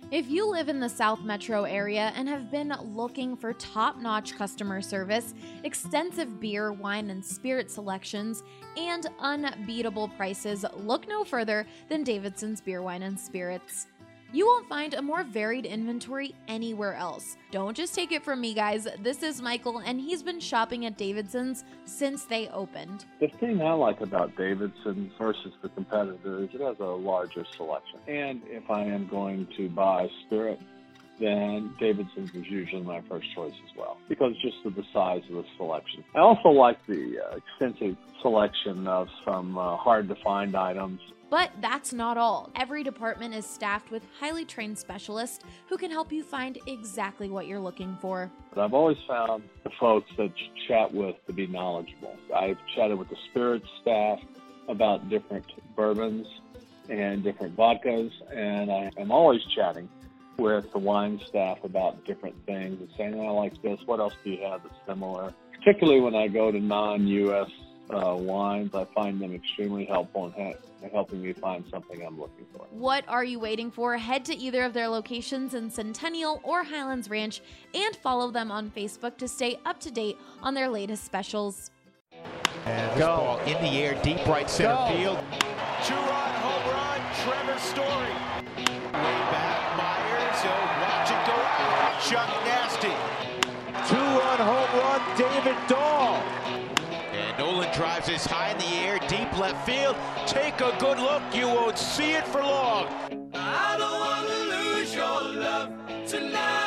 If you live in the South Metro area and have been looking for top-notch customer service, extensive beer, wine, and spirit selections, and unbeatable prices, look no further than Davidson's Beer, Wine, and Spirits. You won't find a more varied inventory anywhere else. Don't just take it from me, guys. This is Michael, and he's been shopping at Davidson's since they opened. The thing I like about Davidson's versus the competitor is it has a larger selection. And if I am going to buy spirit, then Davidson's is usually my first choice as well, because just of the size of the selection. I also like the extensive selection of some hard-to-find items. But that's not all. Every department is staffed with highly trained specialists who can help you find exactly what you're looking for. But I've always found the folks that you chat with to be knowledgeable. I've chatted with the spirits staff about different bourbons and different vodkas, and I am always chatting with the wine staff about different things and saying, I like this, what else do you have that's similar? Particularly when I go to non-U.S. wines, I find them extremely helpful in helping me find something I'm looking for. What are you waiting for? Head to either of their locations in Centennial or Highlands Ranch and follow them on Facebook to stay up to date on their latest specials. And this ball in the air, deep right center field. Two-run home run, Trevor Story. Way back, Myers, watch it go out. Chuck Nasty. Two-run home run, David Dahl. And Nolan drives this high in the air, deep left field. Take a good look, you won't see it for long. I don't want to lose your love tonight.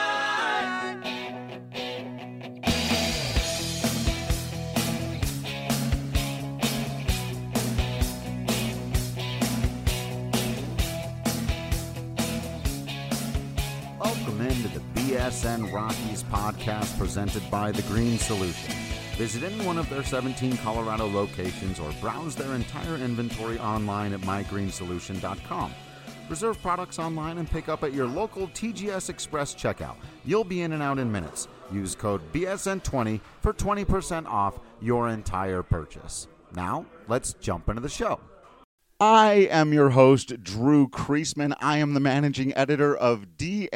Welcome into the BSN Rockies podcast presented by The Green Solution. Visit any one of their 17 Colorado locations or browse their entire inventory online at mygreensolution.com. Reserve products online and pick up at your local TGS Express checkout. You'll be in and out in minutes. Use code BSN20 for 20% off your entire purchase. Now, let's jump into the show. I am your host, Drew Kreisman. I am the managing editor of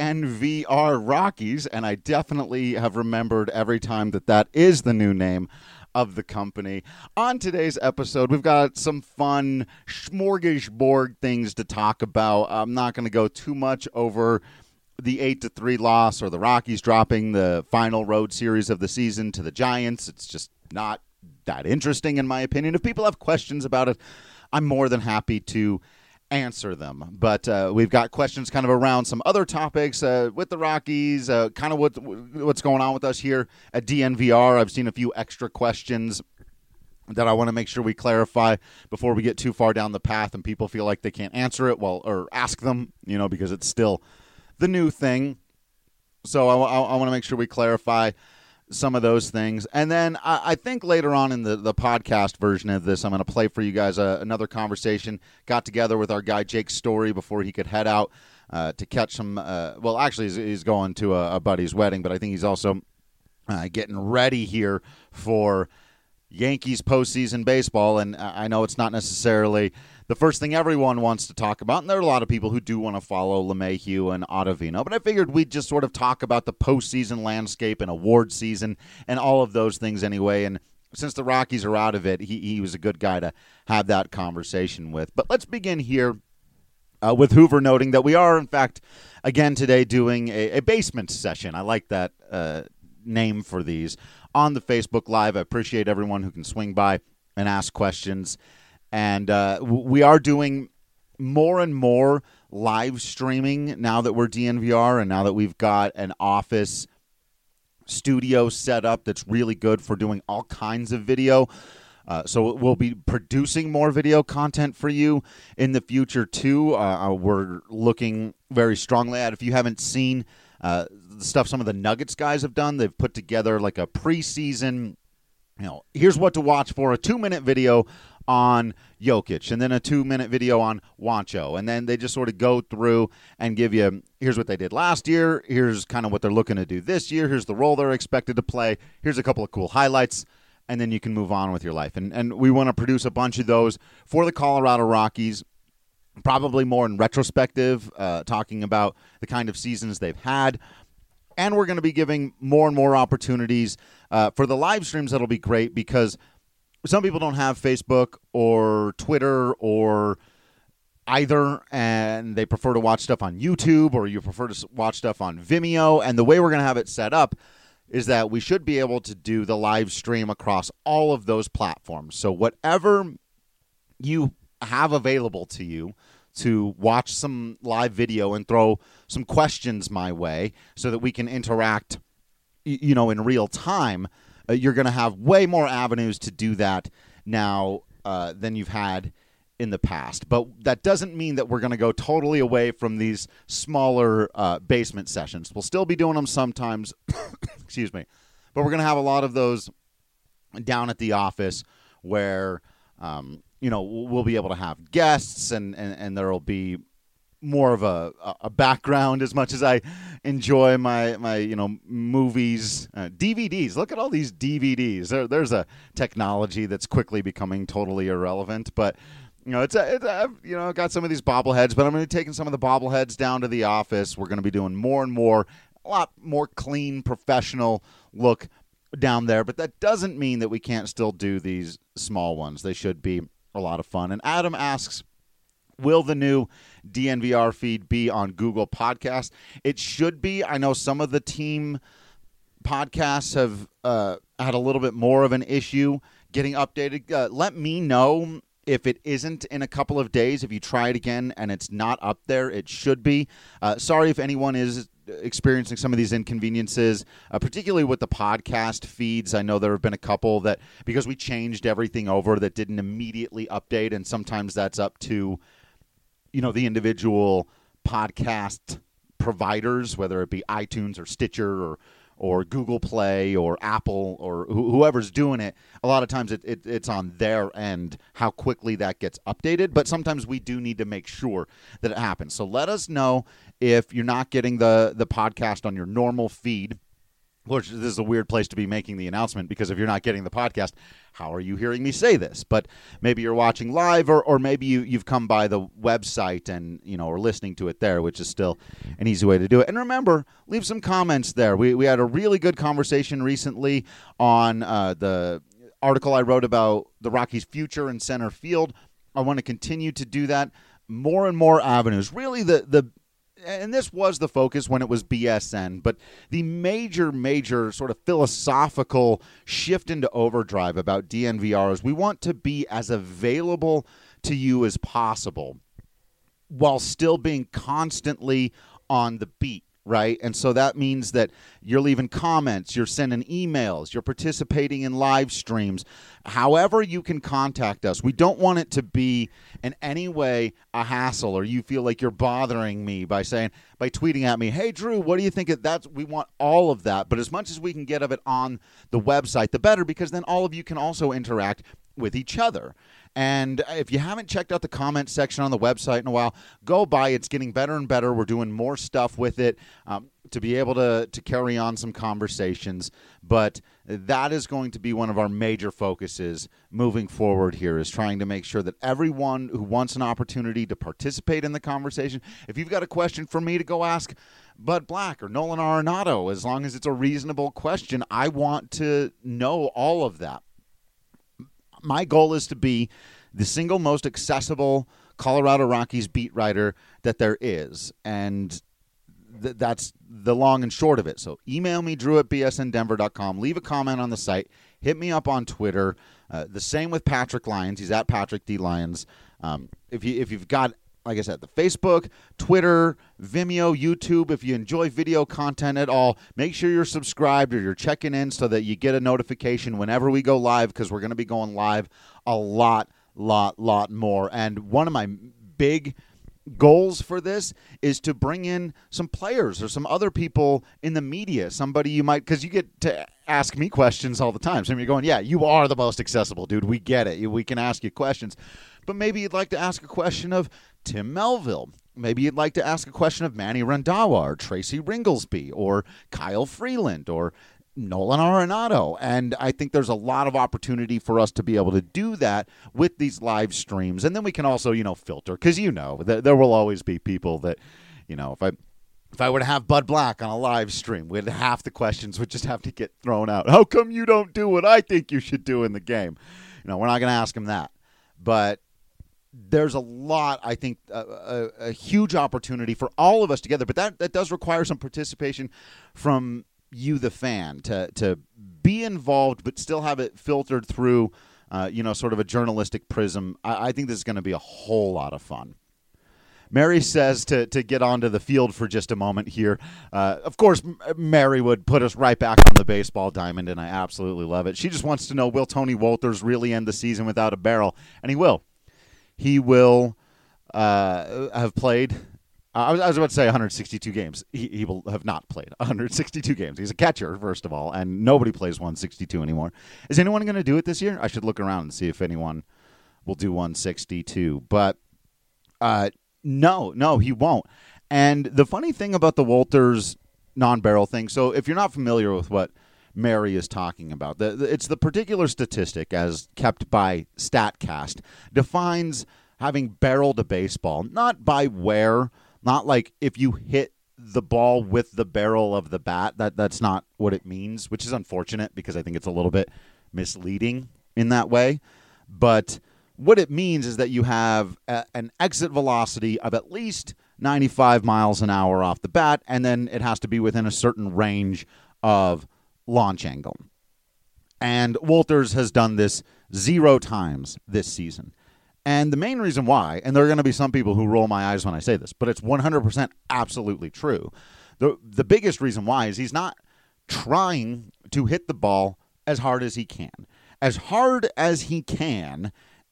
DNVR Rockies, and I definitely have remembered every time that is the new name of the company. On today's episode, we've got some fun smorgasbord things to talk about. I'm not going to go too much over the 8-3 loss or the Rockies dropping the final road series of the season to the Giants. It's just not that interesting, in my opinion. If people have questions about it, I'm more than happy to answer them. But we've got questions kind of around some other topics with the Rockies, kind of what's going on with us here at DNVR. I've seen a few extra questions that I want to make sure we clarify before we get too far down the path and people feel like they can't answer it or ask them, because it's still the new thing. So I want to make sure we clarify some of those things. And then I think later on in the podcast version of this, I'm going to play for you guys another conversation. Got together with our guy Jake Story before he could head out to catch some, actually he's going to a buddy's wedding, but I think he's also getting ready here for Yankees postseason baseball. And I know it's not necessarily the first thing everyone wants to talk about, and there are a lot of people who do want to follow LeMahieu and Ottavino, but I figured we'd just sort of talk about the postseason landscape and award season and all of those things anyway, and since the Rockies are out of it, he was a good guy to have that conversation with. But let's begin here with Hoover noting that we are, in fact, again today doing a basement session. I like that name for these on the Facebook Live. I appreciate everyone who can swing by and ask questions. And we are doing more and more live streaming now that we're DNVR and now that we've got an office studio set up that's really good for doing all kinds of video. So we'll be producing more video content for you in the future, too. We're looking very strongly at, if you haven't seen the stuff some of the Nuggets guys have done, they've put together like a preseason, here's what to watch for, a 2-minute video on Jokic, and then a 2-minute video on Juancho, and then they just sort of go through and give you, here's what they did last year, here's kind of what they're looking to do this year, here's the role they're expected to play, here's a couple of cool highlights, and then you can move on with your life. And we want to produce a bunch of those for the Colorado Rockies probably more in retrospective, talking about the kind of seasons they've had. And we're going to be giving more and more opportunities for the live streams. That'll be great because some people don't have Facebook or Twitter or either, and they prefer to watch stuff on YouTube, or you prefer to watch stuff on Vimeo. And the way we're going to have it set up is that we should be able to do the live stream across all of those platforms. So whatever you have available to you to watch some live video and throw some questions my way so that we can interact, in real time, you're going to have way more avenues to do that now than you've had in the past. But that doesn't mean that we're going to go totally away from these smaller basement sessions. We'll still be doing them sometimes, excuse me, but we're going to have a lot of those down at the office where, we'll be able to have guests and there will be more of a background. As much as I enjoy my movies, DVDs. Look at all these DVDs. There's a technology that's quickly becoming totally irrelevant, but I've got some of these bobbleheads, but I'm going to be taking some of the bobbleheads down to the office. We're going to be doing more and more, a lot more clean, professional look down there. But that doesn't mean that we can't still do these small ones. They should be a lot of fun. And Adam asks, will the new DNVR feed be on Google Podcasts? It should be. I know some of the team podcasts have had a little bit more of an issue getting updated. Let me know if it isn't in a couple of days. If you try it again and it's not up there, it should be. Sorry if anyone is experiencing some of these inconveniences, particularly with the podcast feeds. I know there have been a couple that, because we changed everything over, that didn't immediately update, and sometimes that's up to, the individual podcast providers, whether it be iTunes or Stitcher or Google Play or Apple or whoever's doing it. A lot of times it's on their end how quickly that gets updated, but sometimes we do need to make sure that it happens. So let us know if you're not getting the podcast on your normal feed. Which, this is a weird place to be making the announcement, because if you're not getting the podcast, how are you hearing me say this? But maybe you're watching live, or maybe you've come by the website and are listening to it there, which is still an easy way to do it. And remember, leave some comments there. We had a really good conversation recently on the article I wrote about the Rockies' future in center field. I want to continue to do that. More and more avenues. Really, and this was the focus when it was BSN, but the major sort of philosophical shift into overdrive about DNVR is we want to be as available to you as possible while still being constantly on the beat, right? And so that means that you're leaving comments, you're sending emails, you're participating in live streams. However you can contact us, we don't want it to be in any way a hassle, or you feel like you're bothering me by tweeting at me, hey, Drew, what do you think of that? We want all of that, but as much as we can get of it on the website, the better, because then all of you can also interact with each other. And if you haven't checked out the comment section on the website in a while, go by. It's getting better and better. We're doing more stuff with it to be able to carry on some conversations. But that is going to be one of our major focuses moving forward here, is trying to make sure that everyone who wants an opportunity to participate in the conversation, if you've got a question for me to go ask Bud Black or Nolan Arenado, as long as it's a reasonable question, I want to know all of that. My goal is to be the single most accessible Colorado Rockies beat writer that there is, and that's the long and short of it. So email me, drew@bsndenver.com. Leave a comment on the site. Hit me up on Twitter. The same with Patrick Lyons. He's at Patrick D. Lyons. If you've got, like I said, the Facebook, Twitter, Vimeo, YouTube, if you enjoy video content at all, make sure you're subscribed or you're checking in so that you get a notification whenever we go live, because we're going to be going live a lot more. And one of my big goals for this is to bring in some players or some other people in the media, somebody you might, because you get to ask me questions all the time. So you're going, yeah, you are the most accessible, dude. We get it. We can ask you questions. But maybe you'd like to ask a question of Tim Melville. Maybe you'd like to ask a question of Manny Randhawa or Tracy Ringlesby or Kyle Freeland or Nolan Arenado. And I think there's a lot of opportunity for us to be able to do that with these live streams. And then we can also, filter, because there will always be people that, if I were to have Bud Black on a live stream, half the questions would just have to get thrown out. How come you don't do what I think you should do in the game? We're not going to ask him that. But there's a lot, I think, a huge opportunity for all of us together. But that does require some participation from you, the fan, to be involved, but still have it filtered through, sort of a journalistic prism. I think this is going to be a whole lot of fun. Mary says to get onto the field for just a moment here. Of course, Mary would put us right back on the baseball diamond, and I absolutely love it. She just wants to know, will Tony Wolters really end the season without a barrel? And he will. He will have played. I was about to say 162 games. He will have not played 162 games. He's a catcher, first of all, and nobody plays 162 anymore. Is anyone going to do it this year? I should look around and see if anyone will do 162. But no, he won't. And the funny thing about the Wolters non-barrel thing, so if you're not familiar with what Mary is talking about, it's the particular statistic as kept by StatCast, defines having barreled a baseball, not by where, not like if you hit the ball with the barrel of the bat. That's not what it means, which is unfortunate because I think it's a little bit misleading in that way. But what it means is that you have an exit velocity of at least 95 miles an hour off the bat, and then it has to be within a certain range of launch angle. And Wolters has done this 0 times this season. And the main reason why, and there are going to be some people who roll my eyes when I say this, but it's 100% absolutely true. The biggest reason why is he's not trying to hit the ball as hard as he can. As hard as he can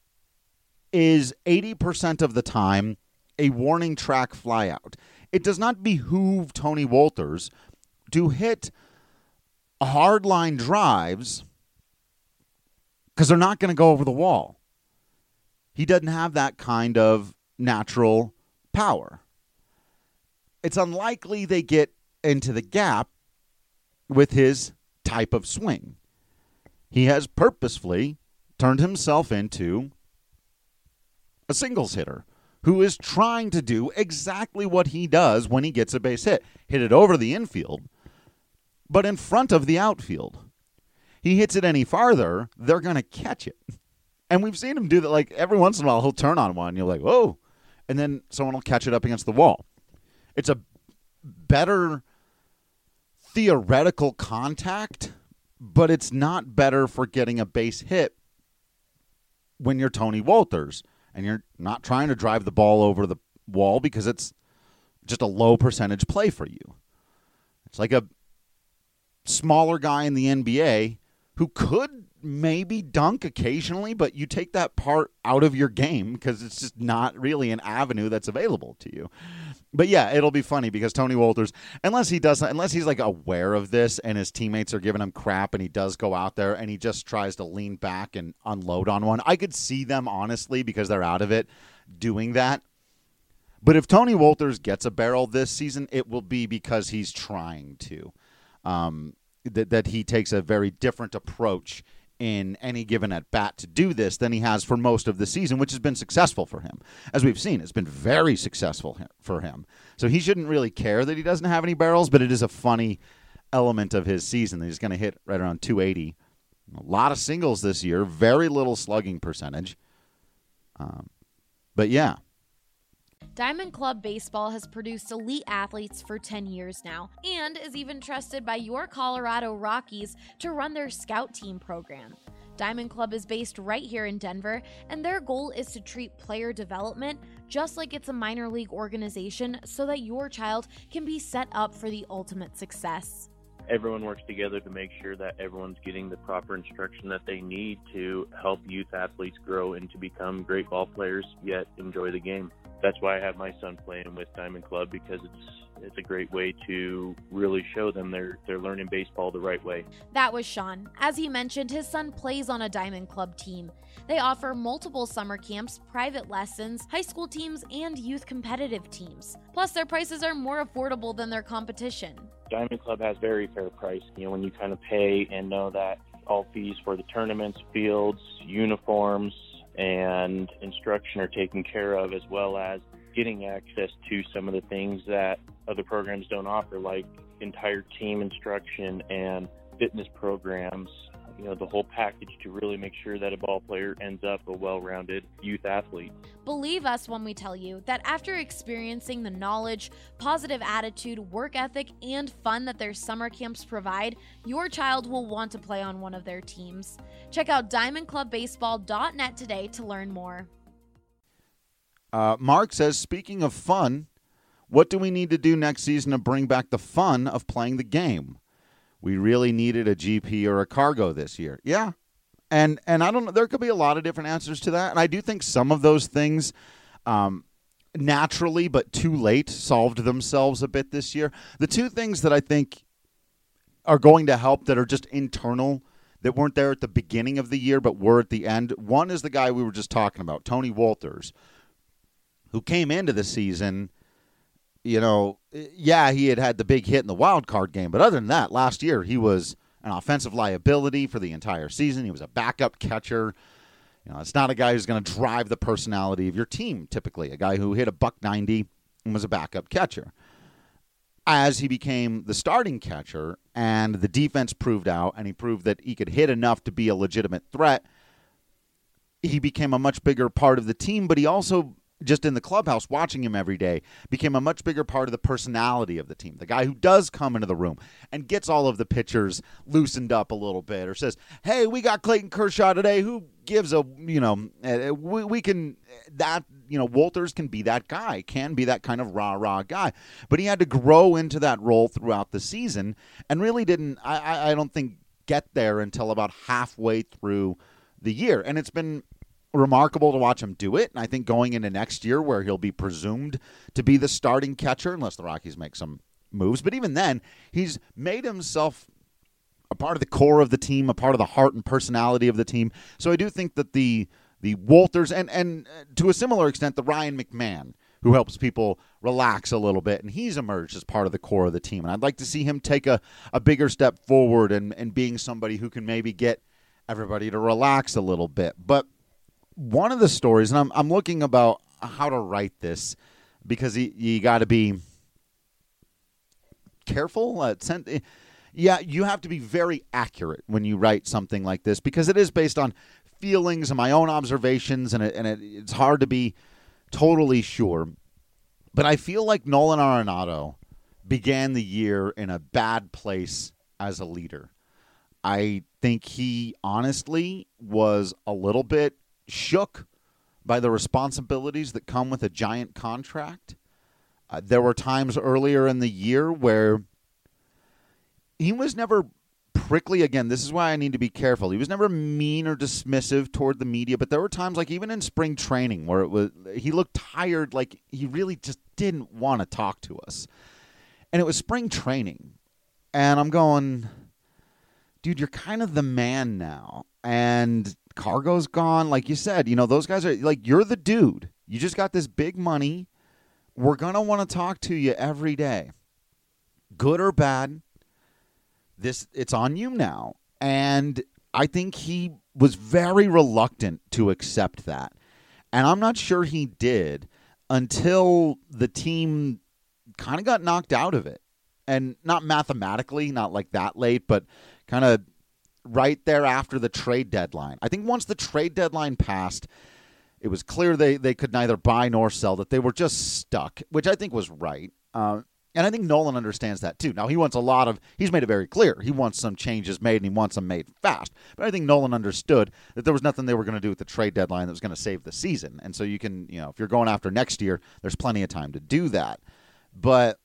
is 80% of the time a warning track flyout. It does not behoove Tony Wolters to hit hardline drives because they're not going to go over the wall. He doesn't have that kind of natural power. It's unlikely they get into the gap with his type of swing. He has purposefully turned himself into a singles hitter who is trying to do exactly what he does when he gets a base hit. Hit it over the infield, but in front of the outfield. He hits it any farther, they're going to catch it. And we've seen him do that. Like every once in a while, he'll turn on one. And you're like, whoa. And then someone will catch it up against the wall. It's a better theoretical contact, but it's not better for getting a base hit when you're Tony Wolters and you're not trying to drive the ball over the wall because it's just a low percentage play for you. It's like a smaller guy in the NBA who could maybe dunk occasionally, but you take that part out of your game because it's just not really an avenue that's available to you. But yeah, it'll be funny because Tony Wolters, unless he's like aware of this and his teammates are giving him crap and he does go out there and he just tries to lean back and unload on one, I could see them honestly, because they're out of it, doing that. But if Tony Wolters gets a barrel this season, it will be because he's trying to. That he takes a very different approach in any given at-bat to do this than he has for most of the season, which has been successful for him. As we've seen, it's been very successful for him. So he shouldn't really care that he doesn't have any barrels, but it is a funny element of his season that he's going to hit right around 280. A lot of singles this year, very little slugging percentage. But yeah. Diamond Club Baseball has produced elite athletes for 10 years now and is even trusted by your Colorado Rockies to run their scout team program. Diamond Club is based right here in Denver, and their goal is to treat player development just like it's a minor league organization so that your child can be set up for the ultimate success. Everyone works together to make sure that everyone's getting the proper instruction that they need to help youth athletes grow and to become great ball players, yet enjoy the game. That's why I have my son playing with Diamond Club, because it's a great way to really show them they're learning baseball the right way. That was Sean. As he mentioned, his son plays on a Diamond Club team. They offer multiple summer camps, private lessons, high school teams, and youth competitive teams. Plus, their prices are more affordable than their competition. Diamond Club has very fair price. When you kind of pay and know that all fees for the tournaments, fields, uniforms, and instruction are taken care of, as well as getting access to some of the things that other programs don't offer, like entire team instruction and fitness programs, the whole package to really make sure that a ball player ends up a well-rounded youth athlete. Believe us when we tell you that after experiencing the knowledge, positive attitude, work ethic, and fun that their summer camps provide, your child will want to play on one of their teams. Check out diamondclubbaseball.net today to learn more. Mark says, speaking of fun, what do we need to do next season to bring back the fun of playing the game? We really needed a GP or a cargo this year. Yeah. And I don't know, there could be a lot of different answers to that. And I do think some of those things naturally, but too late, solved themselves a bit this year. The two things that I think are going to help that are just internal, that weren't there at the beginning of the year, but were at the end. One is the guy we were just talking about, Tony Wolters, who came into the season, he had the big hit in the wild card game. But other than that, last year he was an offensive liability for the entire season. He was a backup catcher. It's not a guy who's going to drive the personality of your team, typically. A guy who hit a .190 and was a backup catcher. As he became the starting catcher and the defense proved out and he proved that he could hit enough to be a legitimate threat, he became a much bigger part of the team, but he also, just in the clubhouse, watching him every day, became a much bigger part of the personality of the team. The guy who does come into the room and gets all of the pitchers loosened up a little bit, or says, hey, we got Clayton Kershaw today. Who gives a, we can, that, Wolters can be that guy, can be that kind of rah-rah guy. But he had to grow into that role throughout the season and really didn't, I don't think, get there until about halfway through the year. And it's been remarkable to watch him do it, and I think going into next year where he'll be presumed to be the starting catcher unless the Rockies make some moves, but even then he's made himself a part of the core of the team, a part of the heart and personality of the team. So I do think that the Wolters and to a similar extent the Ryan McMahon, who helps people relax a little bit, and he's emerged as part of the core of the team, and I'd like to see him take a bigger step forward and being somebody who can maybe get everybody to relax a little bit. But one of the stories, and I'm looking about how to write this because you got to be careful. You have to be very accurate when you write something like this because it is based on feelings and my own observations, and it's hard to be totally sure. But I feel like Nolan Arenado began the year in a bad place as a leader. I think he honestly was a little bit shook by the responsibilities that come with a giant contract. There were times earlier in the year where he was never prickly. Again, this is why I need to be careful. He was never mean or dismissive toward the media, but there were times, like even in spring training, where he looked tired, like he really just didn't want to talk to us. And it was spring training. And I'm going, dude, you're kind of the man now. And Cargo's gone. Like you said, those guys are like, you're the dude. You just got this big money. We're going to want to talk to you every day. Good or bad, it's on you now. And I think he was very reluctant to accept that. And I'm not sure he did until the team kind of got knocked out of it. And not mathematically, not like that late, but kind of right there after the trade deadline. I think once the trade deadline passed, it was clear they could neither buy nor sell, that they were just stuck, which I think was right. And I think Nolan understands that too. Now, he's made it very clear. He wants some changes made, and he wants them made fast. But I think Nolan understood that there was nothing they were going to do with the trade deadline that was going to save the season. And so you can, if you're going after next year, there's plenty of time to do that. But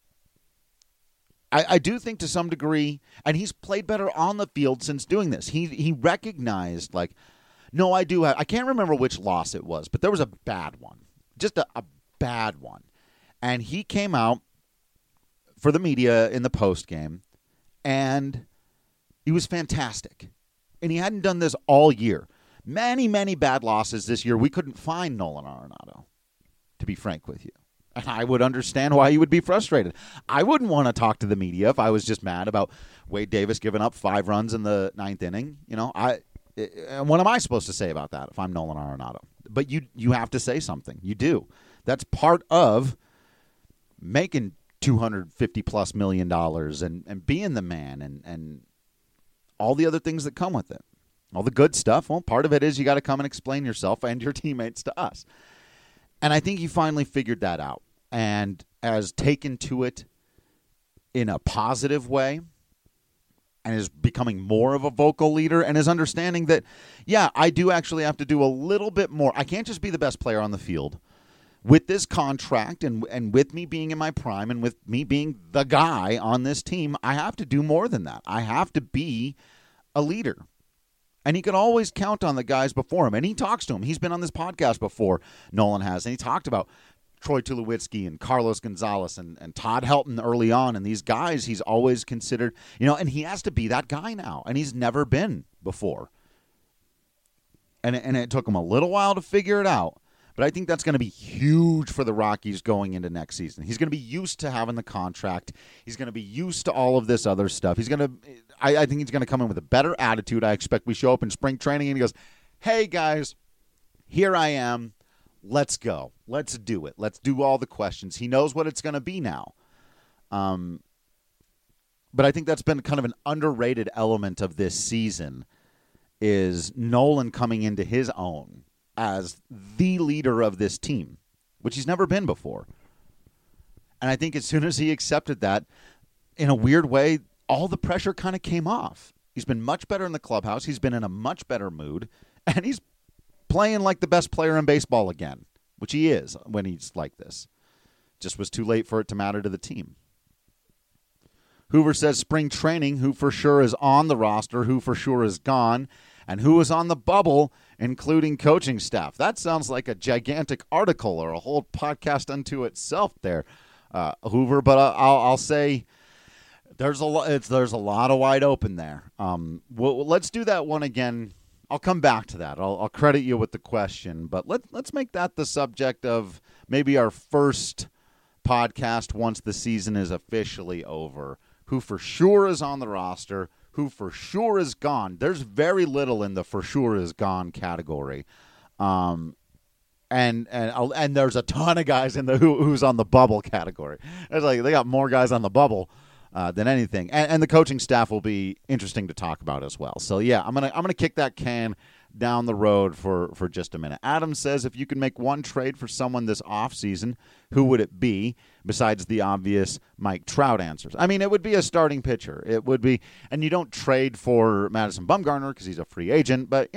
I do think to some degree, and he's played better on the field since doing this. He recognized, like, no, I can't remember which loss it was, but there was a bad one. Just a bad one. And he came out for the media in the post game, and he was fantastic. And he hadn't done this all year. Many, many bad losses this year. We couldn't find Nolan Arenado, to be frank with you. And I would understand why you would be frustrated. I wouldn't want to talk to the media if I was just mad about Wade Davis giving up 5 runs in the 9th inning. What am I supposed to say about that if I'm Nolan Arenado? But you have to say something. You do. That's part of making $250+ million and being the man and all the other things that come with it. All the good stuff. Well, part of it is you got to come and explain yourself and your teammates to us. And I think he finally figured that out and has taken to it in a positive way and is becoming more of a vocal leader and is understanding that, yeah, I do actually have to do a little bit more. I can't just be the best player on the field. With this contract and with me being in my prime and with me being the guy on this team, I have to do more than that. I have to be a leader. And he can always count on the guys before him. And he talks to him. He's been on this podcast before, Nolan has. And he talked about Troy Tulowitzki and Carlos Gonzalez and Todd Helton early on. And these guys he's always considered, and he has to be that guy now. And he's never been before. And it took him a little while to figure it out. But I think that's going to be huge for the Rockies going into next season. He's going to be used to having the contract. He's going to be used to all of this other stuff. I think he's going to come in with a better attitude. I expect we show up in spring training and he goes, hey, guys, here I am. Let's go. Let's do it. Let's do all the questions. He knows what it's going to be now. But I think that's been kind of an underrated element of this season is Nolan coming into his own as the leader of this team, which he's never been before. And I think as soon as he accepted that, in a weird way, all the pressure kind of came off. He's been much better in the clubhouse. He's been in a much better mood. And he's playing like the best player in baseball again, which he is when he's like this. Just was too late for it to matter to the team. Hoover says spring training, who for sure is on the roster, who for sure is gone, and who is on the bubble, including coaching staff. That sounds like a gigantic article or a whole podcast unto itself there, Hoover. But I'll say there's a lot of wide open there. Let's do that one again. I'll come back to that. I'll credit you with the question, but let's make that the subject of maybe our first podcast once the season is officially over. Who for sure is on the roster, who for sure is gone. There's very little in the for sure is gone category. And there's a ton of guys in the who's on the bubble category. It's like they got more guys on the bubble than anything. And the coaching staff will be interesting to talk about as well. So yeah, I'm gonna kick that can down the road for just a minute. Adam says, if you could make one trade for someone this offseason, who would it be besides the obvious Mike Trout answers? I mean, it would be a starting pitcher. It would be, and you don't trade for Madison Bumgarner because he's a free agent, but,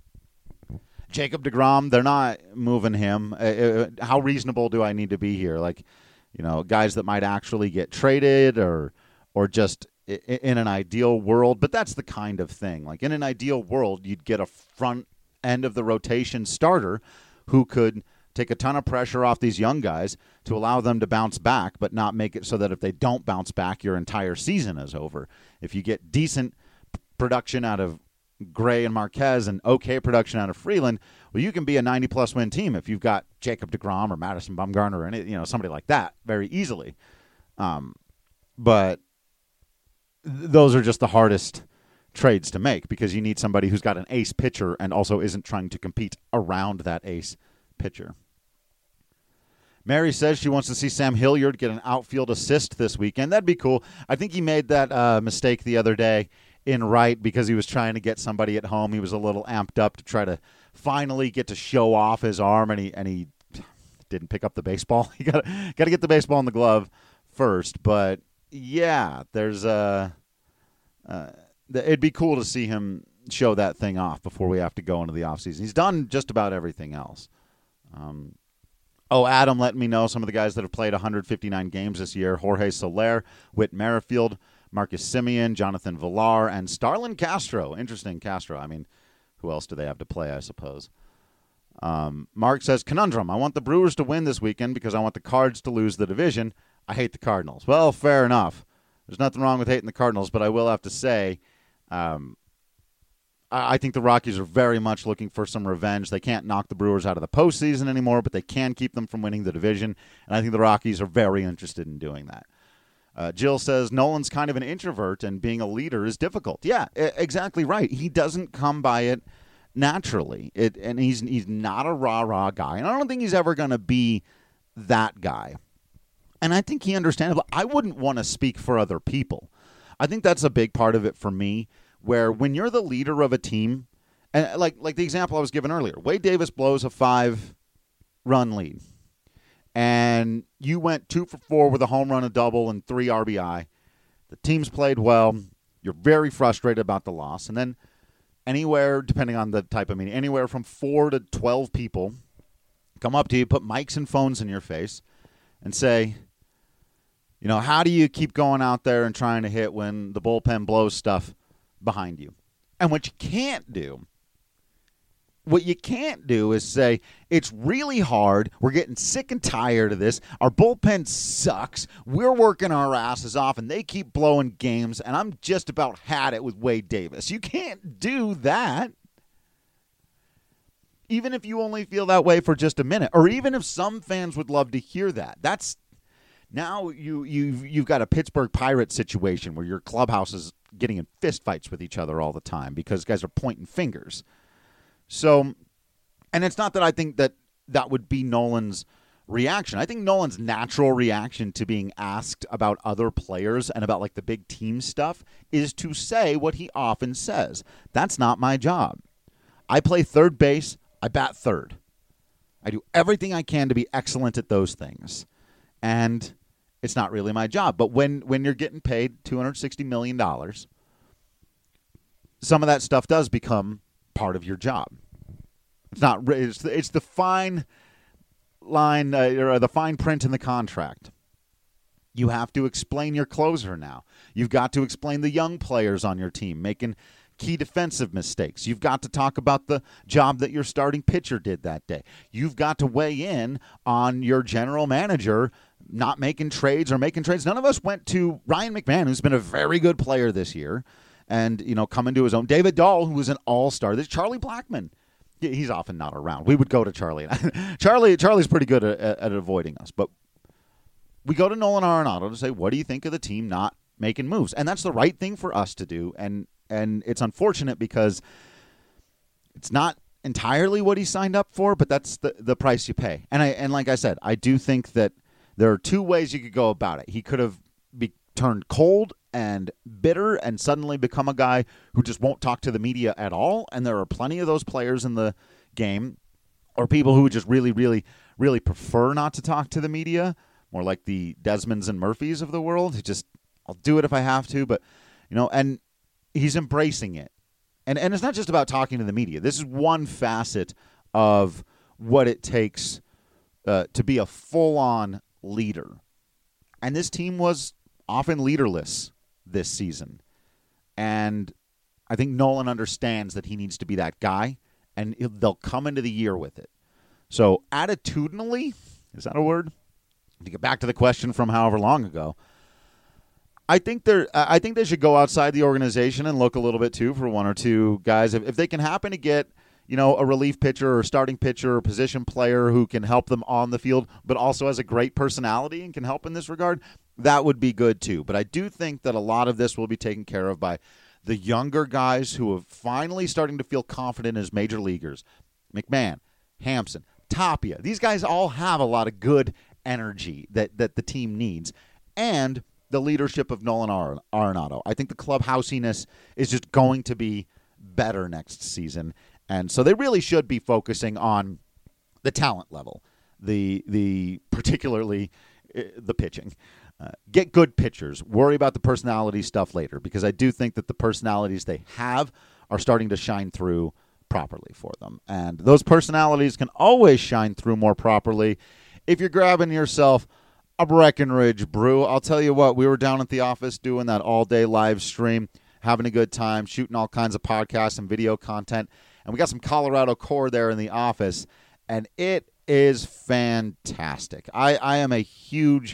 Jacob deGrom, they're not moving him. How reasonable do I need to be here? Like, guys that might actually get traded or just in an ideal world, but that's the kind of thing. Like in an ideal world, you'd get a front end of the rotation starter who could take a ton of pressure off these young guys to allow them to bounce back, but not make it so that if they don't bounce back, your entire season is over. If you get decent production out of Gray and Marquez and okay production out of Freeland, well, you can be a 90-plus win team if you've got Jacob deGrom or Madison Bumgarner or somebody like that very easily. But those are just the hardest trades to make because you need somebody who's got an ace pitcher and also isn't trying to compete around that ace pitcher. Mary says she wants to see Sam Hilliard get an outfield assist this weekend. That'd be cool. I think he made that mistake the other day in right because he was trying to get somebody at home. He was a little amped up to try to finally get to show off his arm, and he didn't pick up the baseball. You got to get the baseball in the glove first, but yeah, there's it'd be cool to see him show that thing off before we have to go into the offseason. He's done just about everything else. Adam let me know some of the guys that have played 159 games this year: Jorge Soler, Whit Merrifield, Marcus Semien, Jonathan Villar, and Starlin Castro. Interesting, Castro. I mean, who else do they have to play, I suppose? Mark says, conundrum. I want the Brewers to win this weekend because I want the Cards to lose the division. I hate the Cardinals. Well, fair enough. There's nothing wrong with hating the Cardinals, but I will have to say I think the Rockies are very much looking for some revenge. They can't knock the Brewers out of the postseason anymore, but they can keep them from winning the division, and I think the Rockies are very interested in doing that. Jill says, Nolan's kind of an introvert, and being a leader is difficult. Yeah, exactly right. He doesn't come by it naturally, and he's not a rah-rah guy, and I don't think he's ever going to be that guy. And I think he understands. I wouldn't want to speak for other people. I think that's a big part of it for me, where when you're the leader of a team, and like the example I was given earlier, Wade Davis blows a 5-run lead, and you went 2 for 4 with a home run, a double, and 3 RBI. The team's played well. You're very frustrated about the loss. And then anywhere, depending on the type of meeting, anywhere from 4 to 12 people come up to you, put mics and phones in your face, and say, you know, how do you keep going out there and trying to hit when the bullpen blows stuff behind you? And what you can't do is say, it's really hard, we're getting sick and tired of this, our bullpen sucks, we're working our asses off, and they keep blowing games, and I'm just about had it with Wade Davis. You can't do that. Even if you only feel that way for just a minute, or even if some fans would love to hear that. That's now you've got a Pittsburgh Pirates situation where your clubhouse is getting in fistfights with each other all the time because guys are pointing fingers. So, and it's not that I think that would be Nolan's reaction. I think Nolan's natural reaction to being asked about other players and about like the big team stuff is to say what he often says. That's not my job. I play third base. I bat third. I do everything I can to be excellent at those things. And it's not really my job. But when you're getting paid $260 million, some of that stuff does become part of your job. It's not. It's the fine line or the fine print in the contract. You have to explain your closer now. You've got to explain the young players on your team making key defensive mistakes. You've got to talk about the job that your starting pitcher did that day. You've got to weigh in on your general manager not making trades or making trades. None of us went to Ryan McMahon, who's been a very good player this year, and coming to his own. David Dahl, who was an all-star. There's Charlie Blackmon. He's often not around. We would go to Charlie. Charlie's pretty good at avoiding us, but we go to Nolan Arenado to say, what do you think of the team not making moves? And that's the right thing for us to do, and it's unfortunate because it's not entirely what he signed up for, but that's the price you pay. And like I said, I do think that there are two ways you could go about it. He could have turned cold and bitter and suddenly become a guy who just won't talk to the media at all, and there are plenty of those players in the game, or people who just really, really, really prefer not to talk to the media, more like the Desmonds and Murphys of the world, who just, I'll do it if I have to, but, and he's embracing it. And it's not just about talking to the media. This is one facet of what it takes to be a full-on leader. And this team was often leaderless this season. And I think Nolan understands that he needs to be that guy, and they'll come into the year with it. So attitudinally, is that a word? To get back to the question from however long ago, I think they should go outside the organization and look a little bit too for one or two guys. If they can happen to get a relief pitcher or starting pitcher or position player who can help them on the field, but also has a great personality and can help in this regard, that would be good too. But I do think that a lot of this will be taken care of by the younger guys who are finally starting to feel confident as major leaguers. McMahon, Hampson, Tapia. These guys all have a lot of good energy that the team needs. And the leadership of Nolan Arenado. I think the clubhousiness is just going to be better next season. And so they really should be focusing on the talent level, the particularly the pitching. Get good pitchers. Worry about the personality stuff later, because I do think that the personalities they have are starting to shine through properly for them. And those personalities can always shine through more properly if you're grabbing yourself a Breckenridge brew. I'll tell you what, we were down at the office doing that all-day live stream, having a good time, shooting all kinds of podcasts and video content, and we got some Colorado Core there in the office, and it is fantastic. I am a huge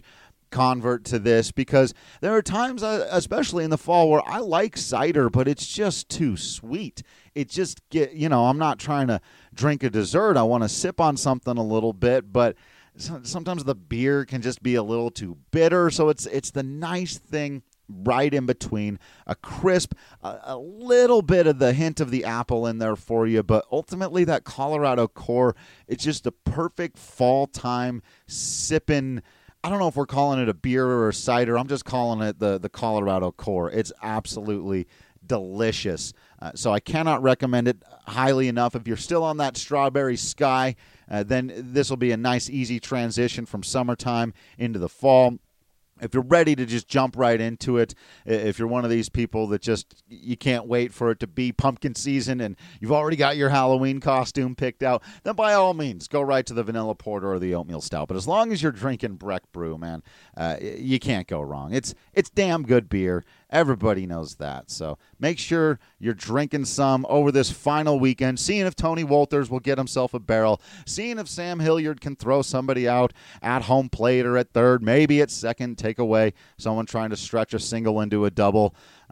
convert to this, because there are times, especially in the fall, where I like cider, but it's just too sweet. It just I'm not trying to drink a dessert. I want to sip on something a little bit, but sometimes the beer can just be a little too bitter. So it's the nice thing right in between, a crisp, a little bit of the hint of the apple in there for you, but ultimately that Colorado Core, it's just a perfect fall time sipping. I don't know if we're calling it a beer or a cider. I'm just calling it the Colorado Core. It's absolutely delicious. So I cannot recommend it highly enough. If you're still on that strawberry sky, then this will be a nice, easy transition from summertime into the fall. If you're ready to just jump right into it, if you're one of these people that just, you can't wait for it to be pumpkin season and you've already got your Halloween costume picked out, then by all means, go right to the vanilla porter or the oatmeal stout. But as long as you're drinking Breck Brew, man, you can't go wrong. It's damn good beer. Everybody knows that. So make sure you're drinking some over this final weekend, seeing if Tony Wolters will get himself a barrel, seeing if Sam Hilliard can throw somebody out at home plate or at third, maybe at second, take away someone trying to stretch a single into a double.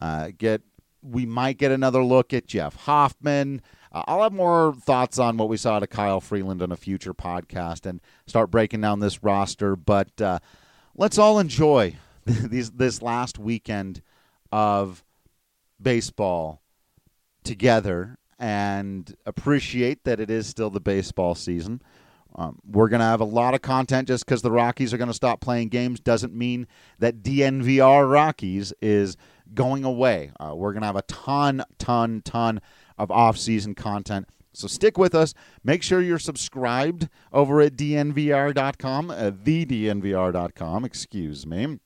We might get another look at Jeff Hoffman. I'll have more thoughts on what we saw to Kyle Freeland on a future podcast and start breaking down this roster. But let's all enjoy this last weekend of baseball together and appreciate that it is still the baseball season. We're going to have a lot of content. Just because the Rockies are going to stop playing games doesn't mean that DNVR Rockies is going away. We're going to have a ton of off-season content. So stick with us. Make sure you're subscribed over at DNVR.com, thednvr.com, excuse me.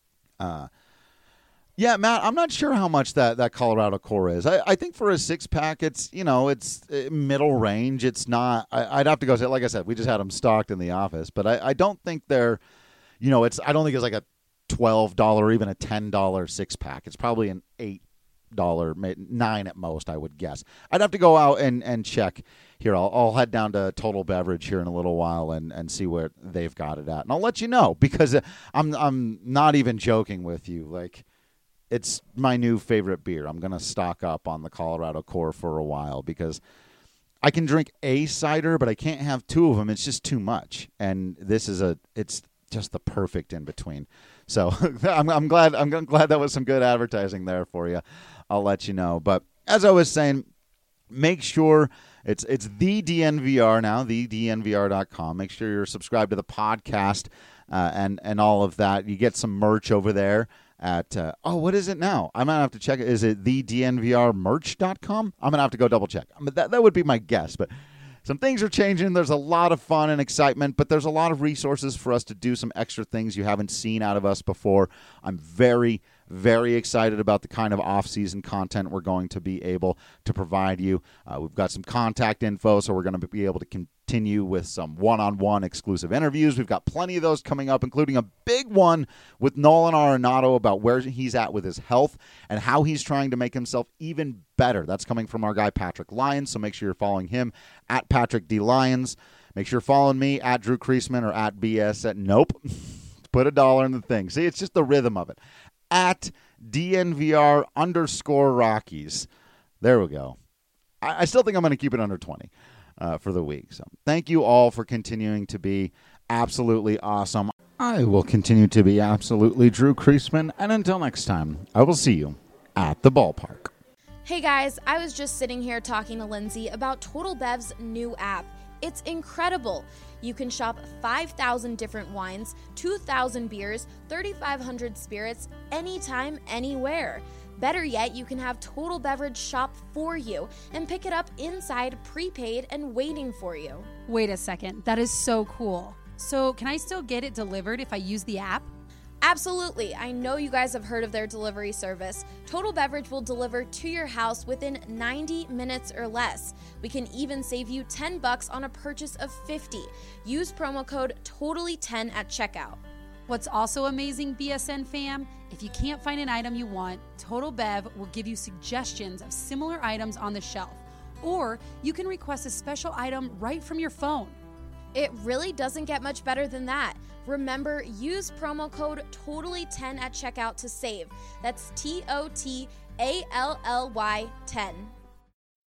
Yeah, Matt, I'm not sure how much that Colorado Core is. I think for a six-pack, it's middle range. It's not. I'd have to go say, like I said, we just had them stocked in the office, but I don't think they're, I don't think it's like a $12 or even a $10 six-pack. It's probably an $8, $9 at most, I would guess. I'd have to go out and check here. I'll head down to Total Beverage here in a little while and see where they've got it at, and I'll let you know, because I'm not even joking with you. Like, it's my new favorite beer. I'm going to stock up on the Colorado Core for a while, because I can drink a cider, but I can't have two of them. It's just too much. And it's just the perfect in between. So I'm glad that was some good advertising there for you. I'll let you know. But as I was saying, make sure it's the DNVR now, thednvr.com. Make sure you're subscribed to the podcast and all of that. You get some merch over there at, what is it now? I'm going to have to check it. Is it thednvrmerch.com? I'm going to have to go double check. That would be my guess, but some things are changing. There's a lot of fun and excitement, but there's a lot of resources for us to do some extra things you haven't seen out of us before. I'm very, very excited about the kind of off-season content we're going to be able to provide you. We've got some contact info, so we're going to be able to continue with some one-on-one exclusive interviews. We've got plenty of those coming up, including a big one with Nolan Arenado about where he's at with his health and how he's trying to make himself even better. That's coming from our guy Patrick Lyons, so make sure you're following him at Patrick D. Lyons. Make sure you're following me at Drew Kreisman or at BS at Nope. Put $1 in the thing. See, it's just the rhythm of it. At DNVR_Rockies. There we go. I still think I'm going to keep it under 20 for the week. So thank you all for continuing to be absolutely awesome. I will continue to be absolutely Drew Kreisman. And until next time, I will see you at the ballpark. Hey guys, I was just sitting here talking to Lindsay about Total Bev's new app. It's incredible. You can shop 5,000 different wines, 2,000 beers, 3,500 spirits, anytime, anywhere. Better yet, you can have Total Beverage shop for you and pick it up inside, prepaid, and waiting for you. Wait a second, that is so cool. So can I still get it delivered if I use the app? Absolutely. I know you guys have heard of their delivery service. Total Beverage will deliver to your house within 90 minutes or less. We can even save you $10 on a purchase of $50. Use promo code TOTALLY10 at checkout. What's also amazing, BSN fam, if you can't find an item you want, Total Bev will give you suggestions of similar items on the shelf. Or you can request a special item right from your phone. It really doesn't get much better than that. Remember, use promo code TOTALLY10 at checkout to save. That's TOTALLY10.